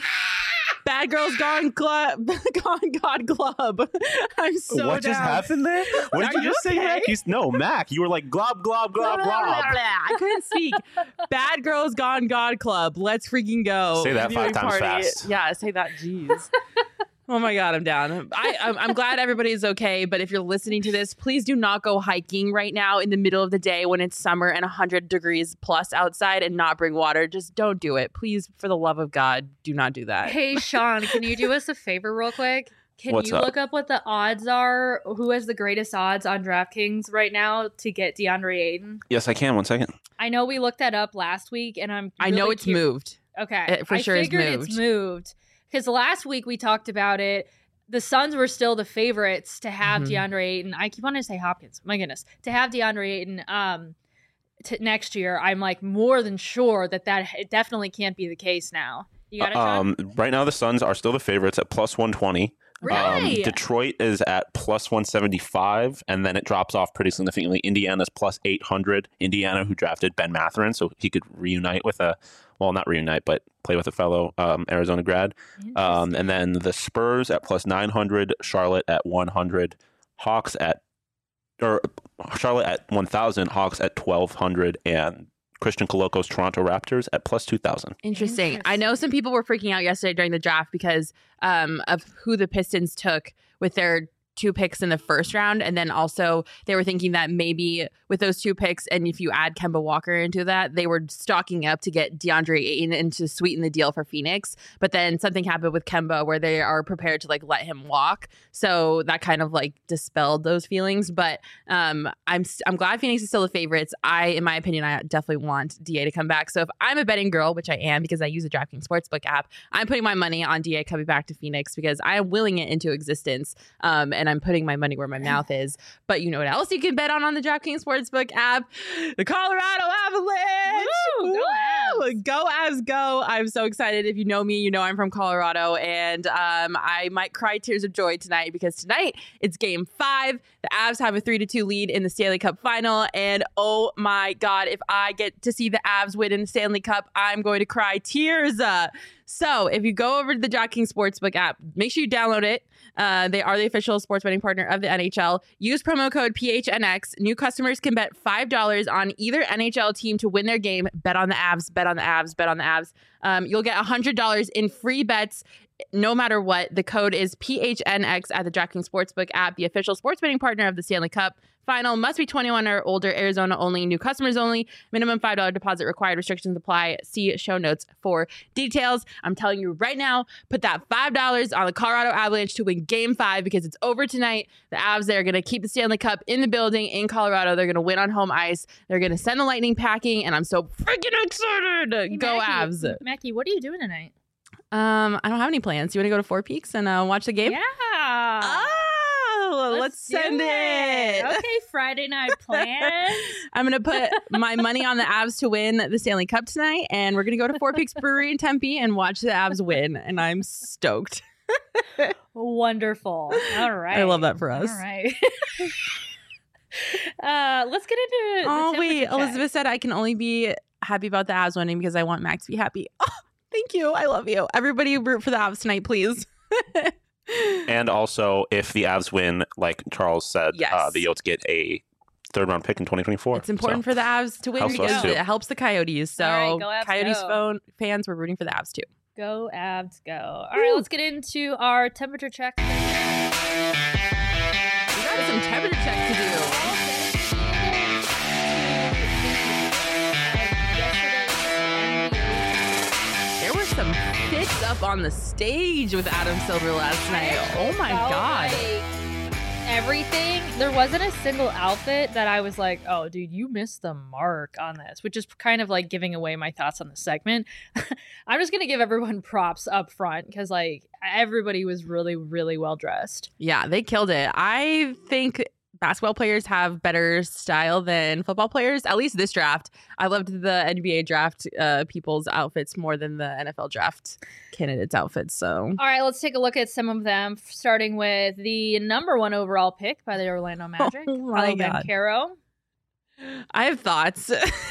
Bad Girls Gone Club. Gone God Club. I'm so What just happened there? What did Are you just say, okay? Mac? No, Mac. You were like glob, glob, glob, glob. I couldn't speak. Bad Girls Gone God Club. Let's freaking go. Say that Viewing 5 times party. fast. Yeah, say that. Jeez. Oh my God, I'm down. I'm glad everybody's okay, but if you're listening to this, please do not go hiking right now in the middle of the day when it's summer and 100 degrees plus outside and not bring water. Just don't do it. Please, for the love of God, do not do that. Hey, Sean, can you do us a favor real quick? Can What's you up? look up what the odds are? Who has the greatest odds on DraftKings right now to get DeAndre Ayton? Yes, I can. 1 second. I know we looked that up last week, and I know it's moved. Okay, It for sure is I figured it's moved because last week we talked about it. The Suns were still the favorites to have DeAndre Ayton. I keep wanting to say Hopkins. My goodness, to have DeAndre Ayton next year. I'm like more than sure that it definitely can't be the case now. You got it, Sean? Right now, the Suns are still the favorites at plus 120. Really? Detroit is at plus 175, and then it drops off pretty significantly. Indiana's plus 800. Indiana, who drafted Ben Mathurin, so he could reunite with not reunite, but play with a fellow Arizona grad. And then the Spurs at plus 900, Charlotte at 100, Charlotte at 1,000, Hawks at 1,200, and Christian Coloco's Toronto Raptors at plus 2,000. Interesting. I know some people were freaking out yesterday during the draft because of who the Pistons took with their 2 picks in the first round. And then also they were thinking that maybe with those 2 picks, and if you add Kemba Walker into that, they were stocking up to get DeAndre Ayton and to sweeten the deal for Phoenix. But then something happened with Kemba where they are prepared to like let him walk. So that kind of like dispelled those feelings. But I'm glad Phoenix is still the favorites. In my opinion, I definitely want DA to come back. So if I'm a betting girl, which I am because I use the DraftKings Sportsbook app, I'm putting my money on DA coming back to Phoenix because I am willing it into existence. And I'm putting my money where my mouth is. But you know what else you can bet on the DraftKings Sportsbook app? The Colorado Avalanche. Woo! Go Avs. Go Avs, go. I'm so excited. If you know me, you know I'm from Colorado. And I might cry tears of joy tonight because tonight it's game 5. The Avs have a 3-2 lead in the Stanley Cup final. And oh my God, if I get to see the Avs win in the Stanley Cup, I'm going to cry tears. So if you go over to the DraftKings Sportsbook app, make sure you download it. They are the official sports betting partner of the NHL. Use promo code PHNX. New customers can bet $5 on either NHL team to win their game. Bet on the Avs, bet on the Avs, bet on the Avs. You'll get $100 in free bets no matter what. The code is PHNX at the DraftKings Sportsbook app, the official sports betting partner of the Stanley Cup final. Must be 21 or older. Arizona only. New customers only. Minimum $5 deposit required. Restrictions apply. See show notes for details. I'm telling you right now, put that $5 on the Colorado Avalanche to win Game 5 because it's over tonight. The Avs, they're going to keep the Stanley Cup in the building in Colorado. They're going to win on home ice. They're going to send the Lightning packing, and I'm so freaking excited. Hey, Go Mackie, Avs. Mackie, what are you doing tonight? I don't have any plans. You want to go to Four Peaks and watch the game? Yeah. Oh, let's send do it. Okay, Friday night plans. I'm going to put my money on the Avs to win the Stanley Cup tonight, and we're going to go to Four Peaks Brewery in Tempe and watch the Avs win, and I'm stoked. Wonderful. All right. I love that for us. All right. Let's get into Oh, the wait. temperature check. Elizabeth said I can only be happy about the Avs winning because I want Max to be happy. Oh, thank you. I love you. Everybody root for the Avs tonight, please. And also, if the Avs win, like Charles said, Yes. the Yotes get a 3rd-round pick in 2024. It's important for the Avs to win Helps us because too. it helps the Coyotes. So, All right, go Avs, Coyotes go. fans, we're rooting for the Avs too. Go Avs, go. All right, let's get into our temperature check. We got some temperature check to do. There were some fits up on the stage with Adam Silver last night. Oh my Felt God. like everything. There wasn't a single outfit that I was like, oh, dude, you missed the mark on this, which is kind of like giving away my thoughts on the segment. I'm just going to give everyone props up front because like everybody was really, really well dressed. Yeah, they killed it. I think basketball players have better style than football players, at least this draft. I loved the NBA draft people's outfits more than the NFL draft candidates' outfits. So, All right, let's take a look at some of them, starting with the number 1 overall pick by the Orlando Magic, Oh my Paolo God. Banchero. I have thoughts.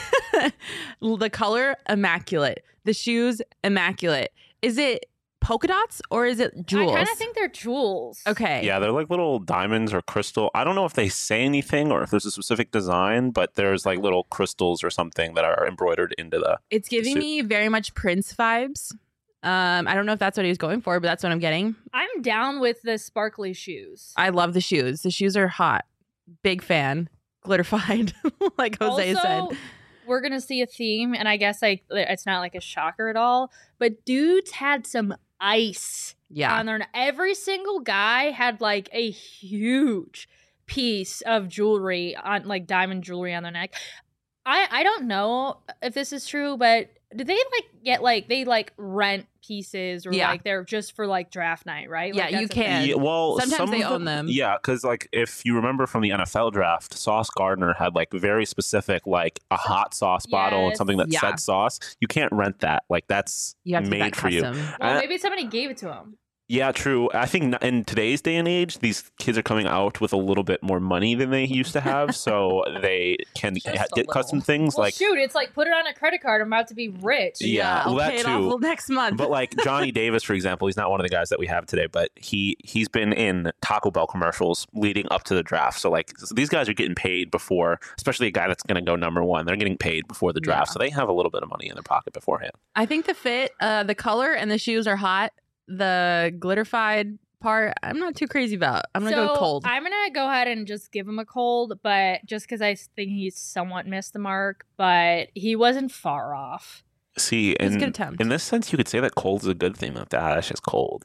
The color, immaculate. The shoes, immaculate. Is it polka dots or is it jewels? I kind of think they're jewels. Okay. Yeah, they're like little diamonds or crystal. I don't know if they say anything or if there's a specific design, but there's like little crystals or something that are embroidered into the. It's giving suit. me very much Prince vibes. I don't know if that's what he was going for, but that's what I'm getting. I'm down with the sparkly shoes. I love the shoes. The shoes are hot. Big fan. Glitterified, like Jose also, said. we're gonna see a theme, and I guess like it's not like a shocker at all, but dudes had some ice Yeah. on their. Every single guy had like a huge piece of jewelry on, like diamond jewelry on their neck. I don't know if this is true, but do they like get like they like rent pieces or Yeah. like they're just for like draft night, right? Yeah, Like, you that's a thing. can. Yeah, well, Sometimes some they of own them. Yeah, because like if you remember from the NFL draft, Sauce Gardner had like very specific like a hot sauce bottle and Yes. something that Yeah. said sauce. You can't rent that. Like that's You have to made get that for you. custom. Well, Uh, maybe somebody gave it to him. Yeah, true. I think in today's day and age, these kids are coming out with a little bit more money than they used to have, so they can Just a get little. custom things Well, like. shoot, it's like put it on a credit card. I'm about to be rich. Yeah, I'll well, that pay it too. off next month. But like Johnny Davis, for example, he's not one of the guys that we have today, but he's been in Taco Bell commercials leading up to the draft. So like these guys are getting paid before, especially a guy that's going to go number 1. They're getting paid before the draft, Yeah. so they have a little bit of money in their pocket beforehand. I think the fit, the color, and the shoes are hot. The glitterified part, I'm not too crazy about. I'm gonna So, go cold. I'm gonna go ahead and just give him a cold, but just because I think he's somewhat missed the mark, but he wasn't far off. See, It's a good attempt. in this sense, you could say that cold is a good thing. That Ash is cold,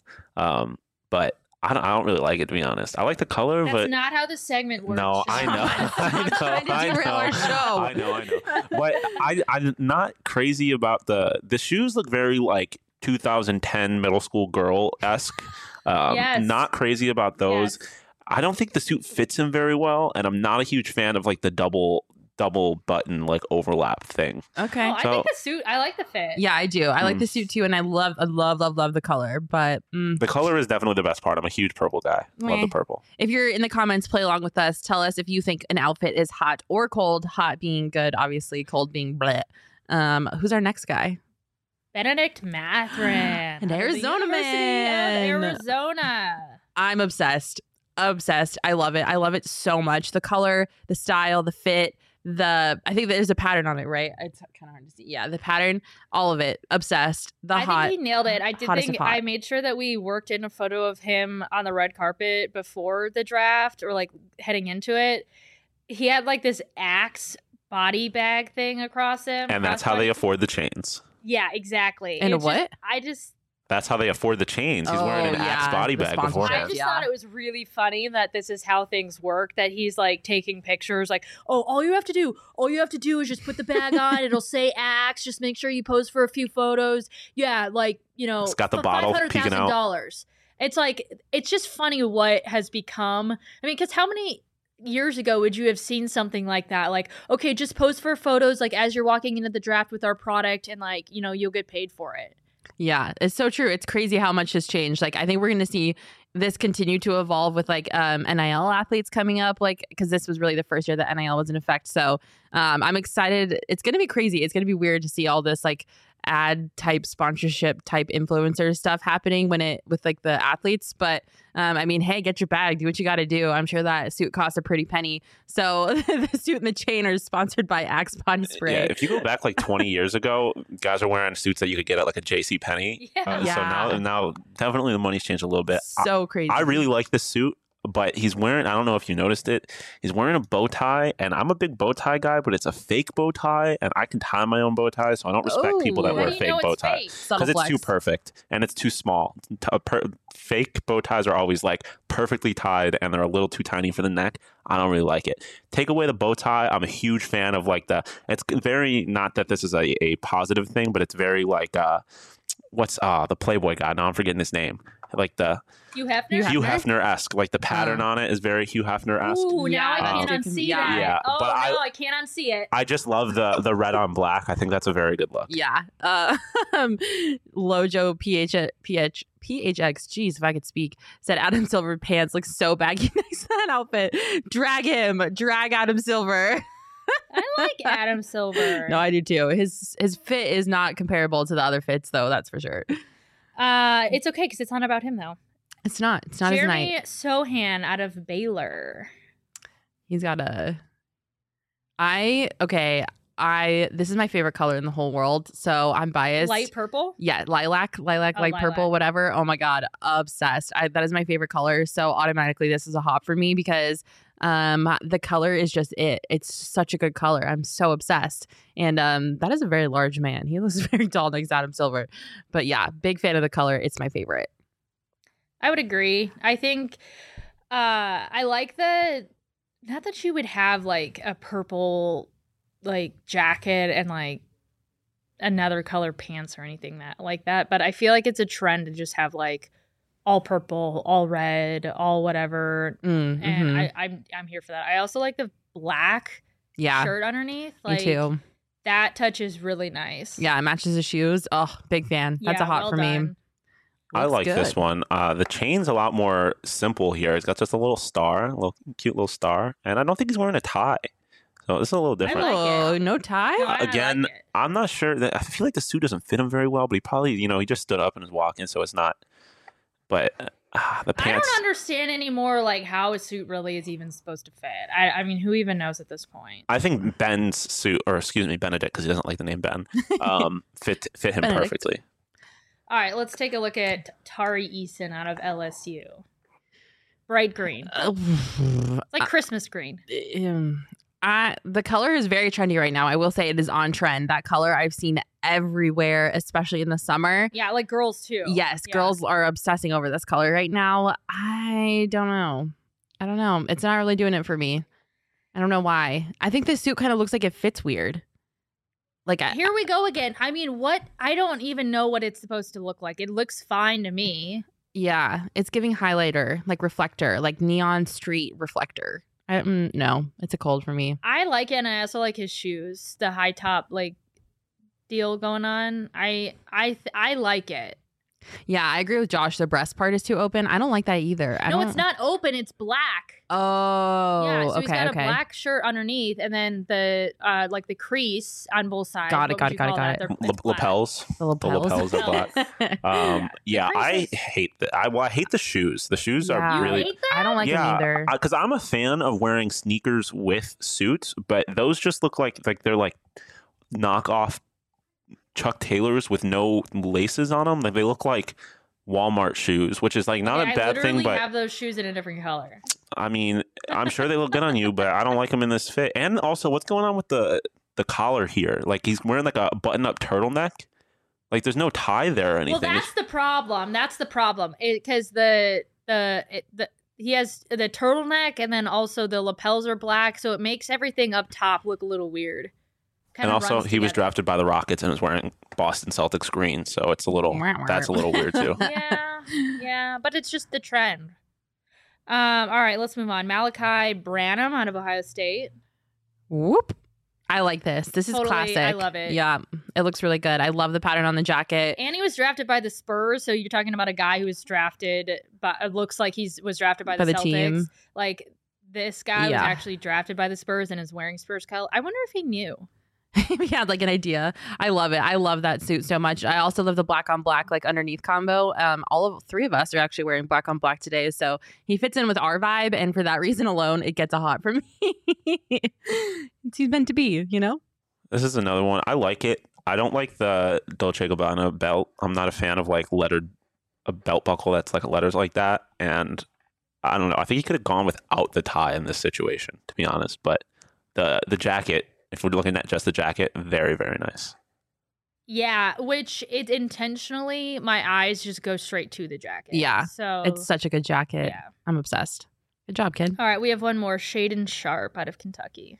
but I don't really like it, to be honest. I like the color, That's but not how the segment works. no, I know, I'm trying to derail our show. I know. But I'm not crazy about the shoes. Look very like 2010 middle school girl esque. Yes. Not crazy about those. Yes. I don't think the suit fits him very well, and I'm not a huge fan of like the double button like overlap thing. Okay. Oh, I So- think the suit. I like the fit. Yeah, I do. I like the suit too, and I love the color. But The color is definitely the best part. I'm a huge purple guy. Love Meh. the purple. if you're in the comments, play along with us. Tell us if you think an outfit is hot or cold. Hot being good, obviously. Cold being bleh. Who's our next guy? Benedict Mathurin, An out of the Arizona University man. of Arizona. I'm obsessed. Obsessed. I love it. I love it so much. The color, the style, the fit. I think there's a pattern on it, right? It's kind of hard to see. Yeah, the pattern, all of it. Obsessed. I think he nailed it. I did hottest think of hot. I made sure that we worked in a photo of him on the red carpet before the draft or like heading into it. He had like this Axe body bag thing across him. And that's how they afford the chains. Yeah, exactly. And a It's just- what? I just That's how they afford the chains. He's wearing an Oh, Axe yeah, body the bag sponsorship. beforehand. I just Yeah. thought it was really funny that this is how things work, that he's like taking pictures like, oh, all you have to do is just put the bag on, it'll say Axe, just make sure you pose for a few photos. Yeah, like, It's got the bottle peeking out. $500,000. It's like, it's just funny what has become. I mean, because how many years ago would you have seen something like that? Like, okay, just pose for photos like as you're walking into the draft with our product and like, you'll get paid for it. Yeah, it's so true. It's crazy how much has changed. Like, I think we're going to see this continue to evolve with like NIL athletes coming up, like, because this was really the first year that NIL was in effect. So I'm excited. It's going to be crazy. It's going to be weird to see all this like ad type sponsorship type influencer stuff happening with like the athletes. But I mean, hey, get your bag, do what you got to do. I'm sure that suit costs a pretty penny. So the suit and the chain are sponsored by Axe body spray. Yeah, if you go back like 20 years ago, guys are wearing suits that you could get at like a J.C. Penney. Yeah. So now definitely the money's changed a little bit. So crazy. I really like this suit, but he's wearing, I don't know if you noticed it, he's wearing a bow tie, and I'm a big bow tie guy, but it's a fake bow tie, and I can tie my own bow tie, so I don't respect people that Ooh. How wear do a you fake know bow it's tie. fake? Subtle Because it's too flex. perfect and it's too small. Fake bow ties are always like perfectly tied and they're a little too tiny for the neck. I don't really like it. Take away the bow tie. I'm a huge fan of like it's very, not that this is a positive thing, but it's very like, what's the Playboy guy? Now I'm forgetting his name. Like the Hugh Hefner? Hugh Hefner-esque. Like the pattern on it is very Hugh Hefner-esque. Ooh, now I Yeah. can't unsee Yeah. that. Yeah, Oh, but I can't unsee it. I just love the red on black. I think that's a very good look. Yeah. Lojo PHX, geez, if I could speak, said Adam Silver pants look so baggy next to that outfit. Drag Adam Silver. I like Adam Silver. No, I do too. His fit is not comparable to the other fits, though. That's for sure. It's okay because it's not about him though. It's not his Jeremy night. Sohan out of Baylor. He's got a. This is my favorite color in the whole world, so I'm biased. Light purple. Yeah, lilac, light purple, lilac. whatever. Oh my god, obsessed. That is my favorite color. So automatically, this is a hop for me because the color is just it. It's such a good color. I'm so obsessed. And that is a very large man. He looks very tall next to Adam Silver. But yeah, big fan of the color. It's my favorite. I would agree. I think I like not that you would have like a purple like jacket and like another color pants or anything like that, but I feel like it's a trend to just have like all purple, all red, all whatever. Mm-hmm. And I'm here for that. I also like the black shirt underneath. Like, me too. That touch is really nice. Yeah, it matches his shoes. Oh, big fan. That's a hot well for me. done. I Looks like this good. one. The chain's a lot more simple here. It's got just a little star, a little cute little star, and I don't think he's wearing a tie. So this is a little different. like Oh, it. no tie? No, I Again, like it. I'm not sure that I feel like the suit doesn't fit him very well, but he probably, he just stood up and was walking, so it's not. But the I pants. don't understand anymore like how a suit really is even supposed to fit. I mean, who even knows at this point? I think Ben's suit, or excuse me, Benedict, because he doesn't like the name Ben, fit him Benedict. perfectly. All right, let's take a look at Tari Eason out of LSU. Bright green. It's like Christmas green. The color is very trendy right now. I will say it is on trend. That color I've seen everywhere, especially in the summer. Yeah, like girls too. Yes, Yeah. girls are obsessing over this color right now. I don't know. It's not really doing it for me. I don't know why. I think this suit kind of looks like it fits weird. Like Here we go again. I mean, what? I don't even know what it's supposed to look like. It looks fine to me. yeah, it's giving highlighter, like reflector, like neon street reflector. No, it's a cold for me. I like it, and I also like his shoes. The high top like deal going on. I like it. Yeah, I agree with Josh. The breast part is too open. I don't like that either. No, it's not open. It's black. Oh, Yeah, so okay, he's got okay. a black shirt underneath, and then the like the crease on both sides. Got it, What got would it, you got it, call got that? it. It's black. Lapels. The lapels. The lapels are black. Yeah, I creases. hate that. I hate the shoes. The shoes Yeah. are You really. hate that? I don't like them either. because I'm a fan of wearing sneakers with suits, but those just look like they're like knockoff Chuck Taylors with no laces on them. Like they look like Walmart shoes, which is like not Okay, a bad I thing, literally but have those shoes in a different color. I mean, I'm sure they look good on you, but I don't like them in this fit. And also, what's going on with the collar here? Like he's wearing like a button-up turtleneck. Like there's no tie there or anything. Well, that's the problem. That's the problem because he has the turtleneck, and then also the lapels are black, so it makes everything up top look a little weird. And also, he was drafted by the Rockets and was wearing Boston Celtics green, so it's a little that's a little weird too. Yeah, but it's just the trend. All right, let's move on. Malachi Branham out of Ohio State. Whoop. I like this. This is Totally, classic. I love it. Yeah, it looks really good. I love the pattern on the jacket. And he was drafted by the Spurs, so you're talking about a guy who was drafted, but it looks like was drafted by the Celtics. Team. Like this guy was actually drafted by the Spurs and is wearing Spurs color. I wonder if he knew. He had like an idea. I love it. I love that suit so much. I also love the black on black like underneath combo. Three of us are actually wearing black on black today, so he fits in with our vibe, and for that reason alone, it gets a hot for me. He's meant to be, you know. This is another one. I like it. I don't like the Dolce & Gabbana belt. I'm not a fan of like a belt buckle that's like letters like that. And I don't know. I think he could have gone without the tie in this situation, to be honest. But the jacket, if we're looking at just the jacket, very, very nice. Yeah, which it intentionally, my eyes just go straight to the jacket. Yeah, so it's such a good jacket. Yeah. I'm obsessed. Good job, kid. All right, we have one more. Shaden Sharp out of Kentucky.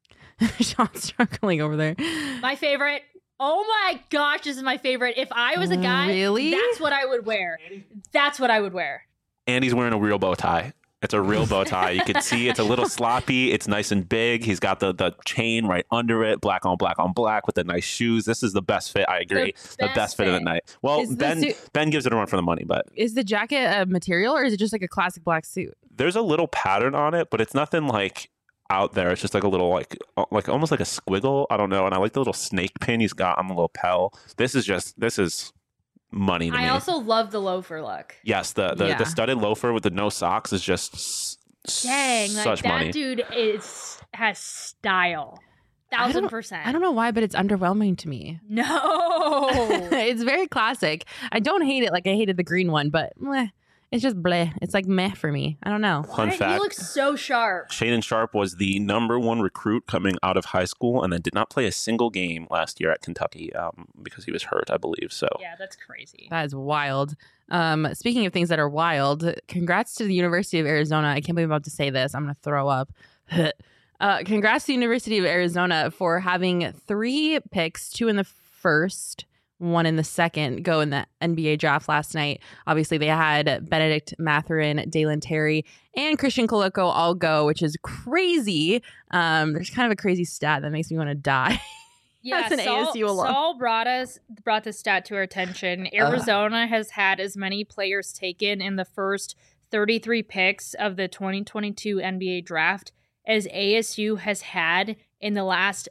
Sean's struggling over there. My favorite. Oh my gosh, this is my favorite. If I was a guy, Really? that's what I would wear. That's what I would wear. And he's wearing a real bow tie. It's a real bow tie. You can see it's a little sloppy. It's nice and big. He's got the chain right under it, black on black with the nice shoes. This is the best fit. I agree. The best fit of the night. Well, Is the Ben gives it a run for the money, but Is the jacket a material or is it just like a classic black suit? there's a little pattern on it, but it's nothing like out there. It's just like a little like almost like a squiggle. I don't know. And I like the little snake pin he's got on the lapel. This is money to me. I also love the loafer look. Yes, the studded loafer with the no socks is just Dang, like such that money. dude has style. 1000%. I don't know why, but it's underwhelming to me. No. It's very classic. I don't hate it like I hated the green one, but it's just bleh. It's like meh for me. I don't know. Fun He fact. looks so sharp. Shaden Sharp was the #1 recruit coming out of high school and then did not play a single game last year at Kentucky because he was hurt, I believe. So Yeah, that's crazy. That is wild. Speaking of things that are wild, congrats to the University of Arizona. I can't believe I'm about to say this. I'm going to throw up. Congrats to the University of Arizona for having 3 picks, 2 in the first, 1 in the second, go in the NBA draft last night. Obviously, they had Benedict Mathurin, Dalen Terry, and Christian Koloko all go, which is crazy. There's kind of a crazy stat that makes me want to die. Yeah, That's an ASU alum. Saul brought this stat to our attention. Arizona has had as many players taken in the first 33 picks of the 2022 NBA draft as ASU has had in the last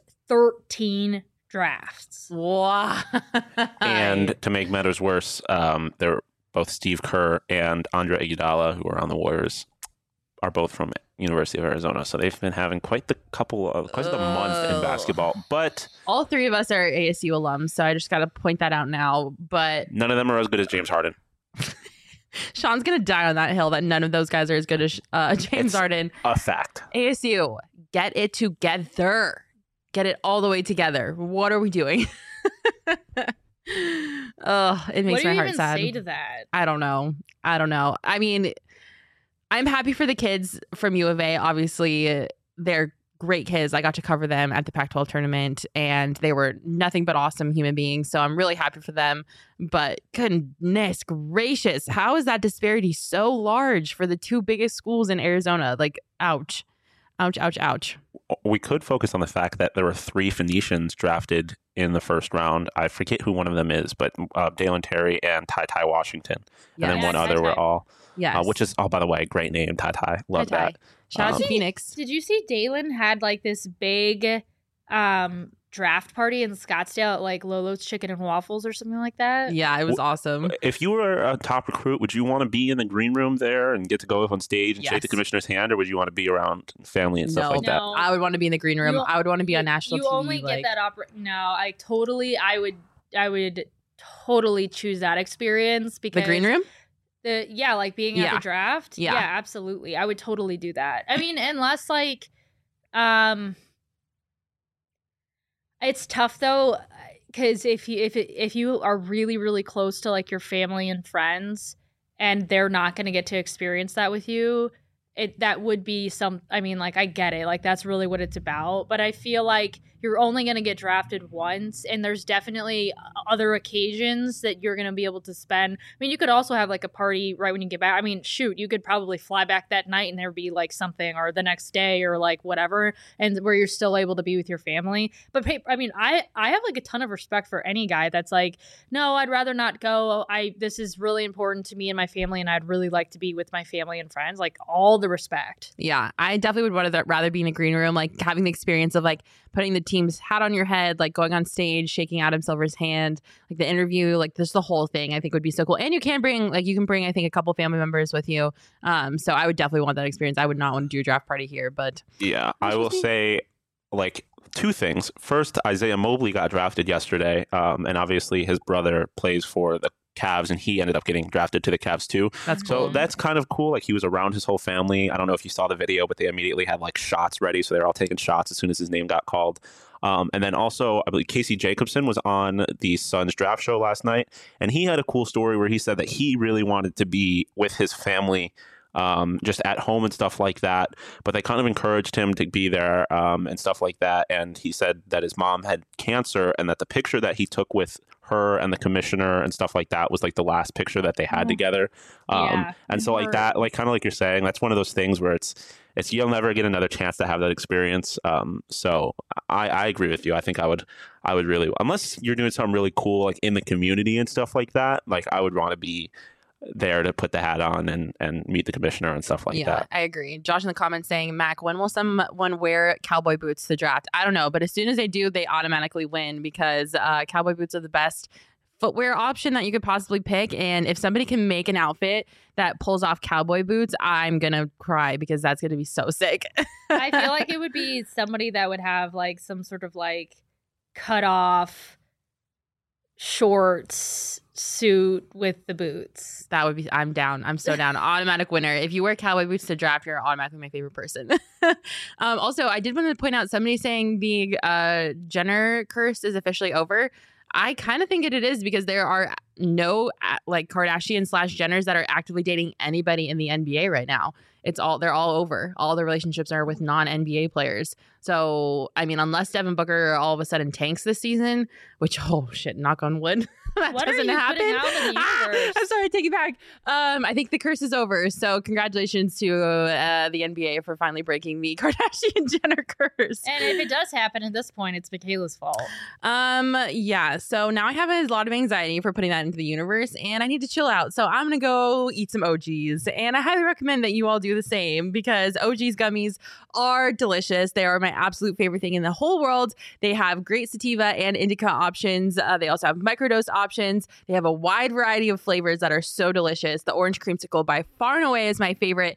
13 drafts. Wow. and to make matters worse, they're both Steve Kerr and Andre Iguodala, who are on the Warriors, are both from University of Arizona. So they've been having quite the month in basketball. But all three of us are ASU alums, so I just got to point that out now. But none of them are as good as James Harden. Sean's going to die on that hill that none of those guys are as good as James Harden. A fact. ASU, get it together. Get it all the way together. What are we doing? Oh, it makes my heart sad. What do you even say to that? I don't know. I mean, I'm happy for the kids from U of A. Obviously, they're great kids. I got to cover them at the Pac-12 tournament, and they were nothing but awesome human beings. So I'm really happy for them. But goodness gracious, how is that disparity so large for the two biggest schools in Arizona? Like, ouch. Ouch, ouch, ouch. We could focus on the fact that there were 3 Phoenicians drafted in the first round. I forget who one of them is, but Dalen Terry and Ty Washington. Yes. And then one other were all, Yes. which is, by the way, great name, Ty. Love Ty. that. Shout out to Phoenix. Did you see Dalen had like this big draft party in Scottsdale at like Lolo's Chicken and Waffles or something like that? Yeah, it was awesome. If you were a top recruit, would you want to be in the green room there and get to go up on stage and shake the commissioner's hand, or would you want to be around family and stuff like that? No. I would want to be in the green room. I would want to be on national TV. You only get that No, I would totally choose that experience because the green room. Like being at the draft. Yeah, absolutely. I would totally do that. I mean, unless like, it's tough though, because if you are really, really close to like your family and friends, and they're not going to get to experience that with you, that would be I mean, like, I get it. Like, that's really what it's about. But I feel like you're only going to get drafted once, and there's definitely other occasions that you're going to be able to spend. I mean, you could also have like a party right when you get back. I mean, shoot, you could probably fly back that night and there'd be like something, or the next day, or like whatever, and where you're still able to be with your family. But I mean, I have like a ton of respect for any guy that's like, no, I'd rather not go. This is really important to me and my family, and I'd really like to be with my family and friends. Like, all the respect. Yeah, I definitely would rather be in a green room, like having the experience of like putting the team's hat on your head, like going on stage, shaking Adam Silver's hand, like the interview, like just the whole thing. I think would be so cool. And you can bring I think a couple family members with you. So I would definitely want that experience. I would not want to do a draft party here, but yeah, I will say like 2 things. First, Isaiah Mobley got drafted yesterday, and obviously his brother plays for the Cavs, and he ended up getting drafted to the Cavs too. That's cool. So that's kind of cool. Like, he was around his whole family. I don't know if you saw the video, but they immediately had like shots ready, so they were all taking shots as soon as his name got called. And then also, I believe Casey Jacobson was on the Suns draft show last night, and he had a cool story where he said that he really wanted to be with his family, just at home and stuff like that, but they kind of encouraged him to be there, and stuff like that. And he said that his mom had cancer, and that the picture that he took with her and the commissioner and stuff like that was like the last picture that they had together. And so like that, like kind of like you're saying, that's one of those things where it's you'll never get another chance to have that experience. So I agree with you. I think I would really, unless you're doing something really cool like in the community and stuff like that, like I would want to be there to put the hat on and meet the commissioner and stuff like that. I agree. Josh in the comments saying, Mac, when will someone wear cowboy boots to draft? I don't know, but as soon as they do, they automatically win, because cowboy boots are the best footwear option that you could possibly pick. And if somebody can make an outfit that pulls off cowboy boots, I'm gonna cry, because that's gonna be so sick. I feel like it would be somebody that would have like some sort of like cut off shorts suit with the boots. That would be, I'm down. I'm so down. Automatic winner. If you wear cowboy boots to draft, you're automatically my favorite person. Also, I did want to point out, somebody saying the Jenner curse is officially over. I kind of think it is, because there are no like Kardashian / Jenners that are actively dating anybody in the NBA right now. They're all over. All the relationships are with non-NBA players. So, I mean, unless Devin Booker all of a sudden tanks this season, which, oh shit, knock on wood, that what doesn't are you happen. putting out in the universe? I'm sorry, I take it back. I think the curse is over. So congratulations to the NBA for finally breaking the Kardashian-Jenner curse. And if it does happen at this point, it's Michaela's fault. Yeah. So now I have a lot of anxiety for putting that into the universe, and I need to chill out. So I'm going to go eat some OGs, and I highly recommend that you all do the same, because OG's gummies are delicious. They are my absolute favorite thing in the whole world. They have great sativa and indica options. They also have microdose options. They have a wide variety of flavors that are so delicious. The orange creamsicle by far and away is my favorite.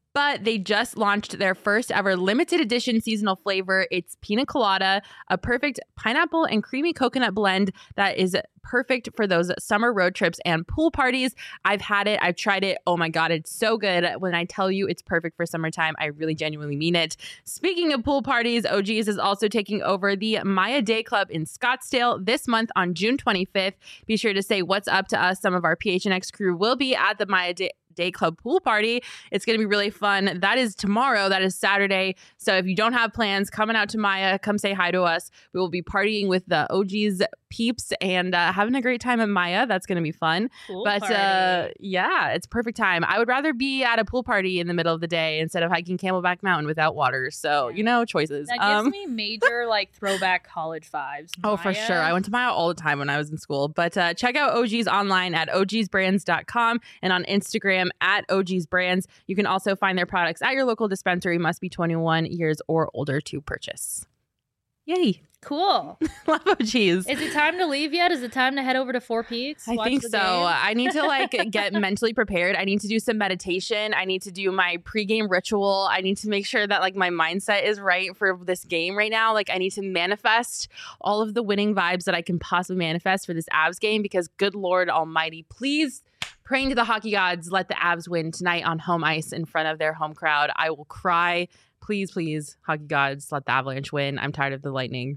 but they just launched their first ever limited edition seasonal flavor. It's pina colada, a perfect pineapple and creamy coconut blend that is perfect for those summer road trips and pool parties. I've had it. I've tried it. Oh my God, it's so good. When I tell you it's perfect for summertime, I really genuinely mean it. Speaking of pool parties, OG's is also taking over the Maya Day Club in Scottsdale this month on June 25th. Be sure to say what's up to us. Some of our PHNX crew will be at the Maya Day Club pool party. It's going to be really fun. That is tomorrow. That is Saturday. So if you don't have plans, coming out to Maya, come say hi to us. We will be partying with the OG's peeps and having a great time at Maya. That's going to be fun. Pool But party. yeah, it's perfect time. I would rather be at a pool party in the middle of the day instead of hiking Camelback Mountain without water. So, you know, choices. That gives me major like throwback college vibes. Oh, for Maya. sure. I went to Maya all the time when I was in school. But check out OG's online at ogsbrands.com and on Instagram at ogsbrands. You can also find their products at your local dispensary. Must be 21 years or older to purchase. Yay. Cool. Love OG's. Is it time to leave yet? Is it time to head over to Four Peaks? I watch think the so. game? I need to like get mentally prepared. I need to do some meditation. I need to do my pregame ritual. I need to make sure that like my mindset is right for this game right now. Like I need to manifest all of the winning vibes that I can possibly manifest for this Avs game because good Lord Almighty, please praying to the hockey gods, let the Avs win tonight on home ice in front of their home crowd. I will cry. Please, please, hockey gods, let the Avalanche win. I'm tired of the Lightning.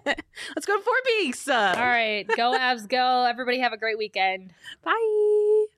Let's go to Four Peaks. All right. Go Avs, go. Everybody have a great weekend. Bye.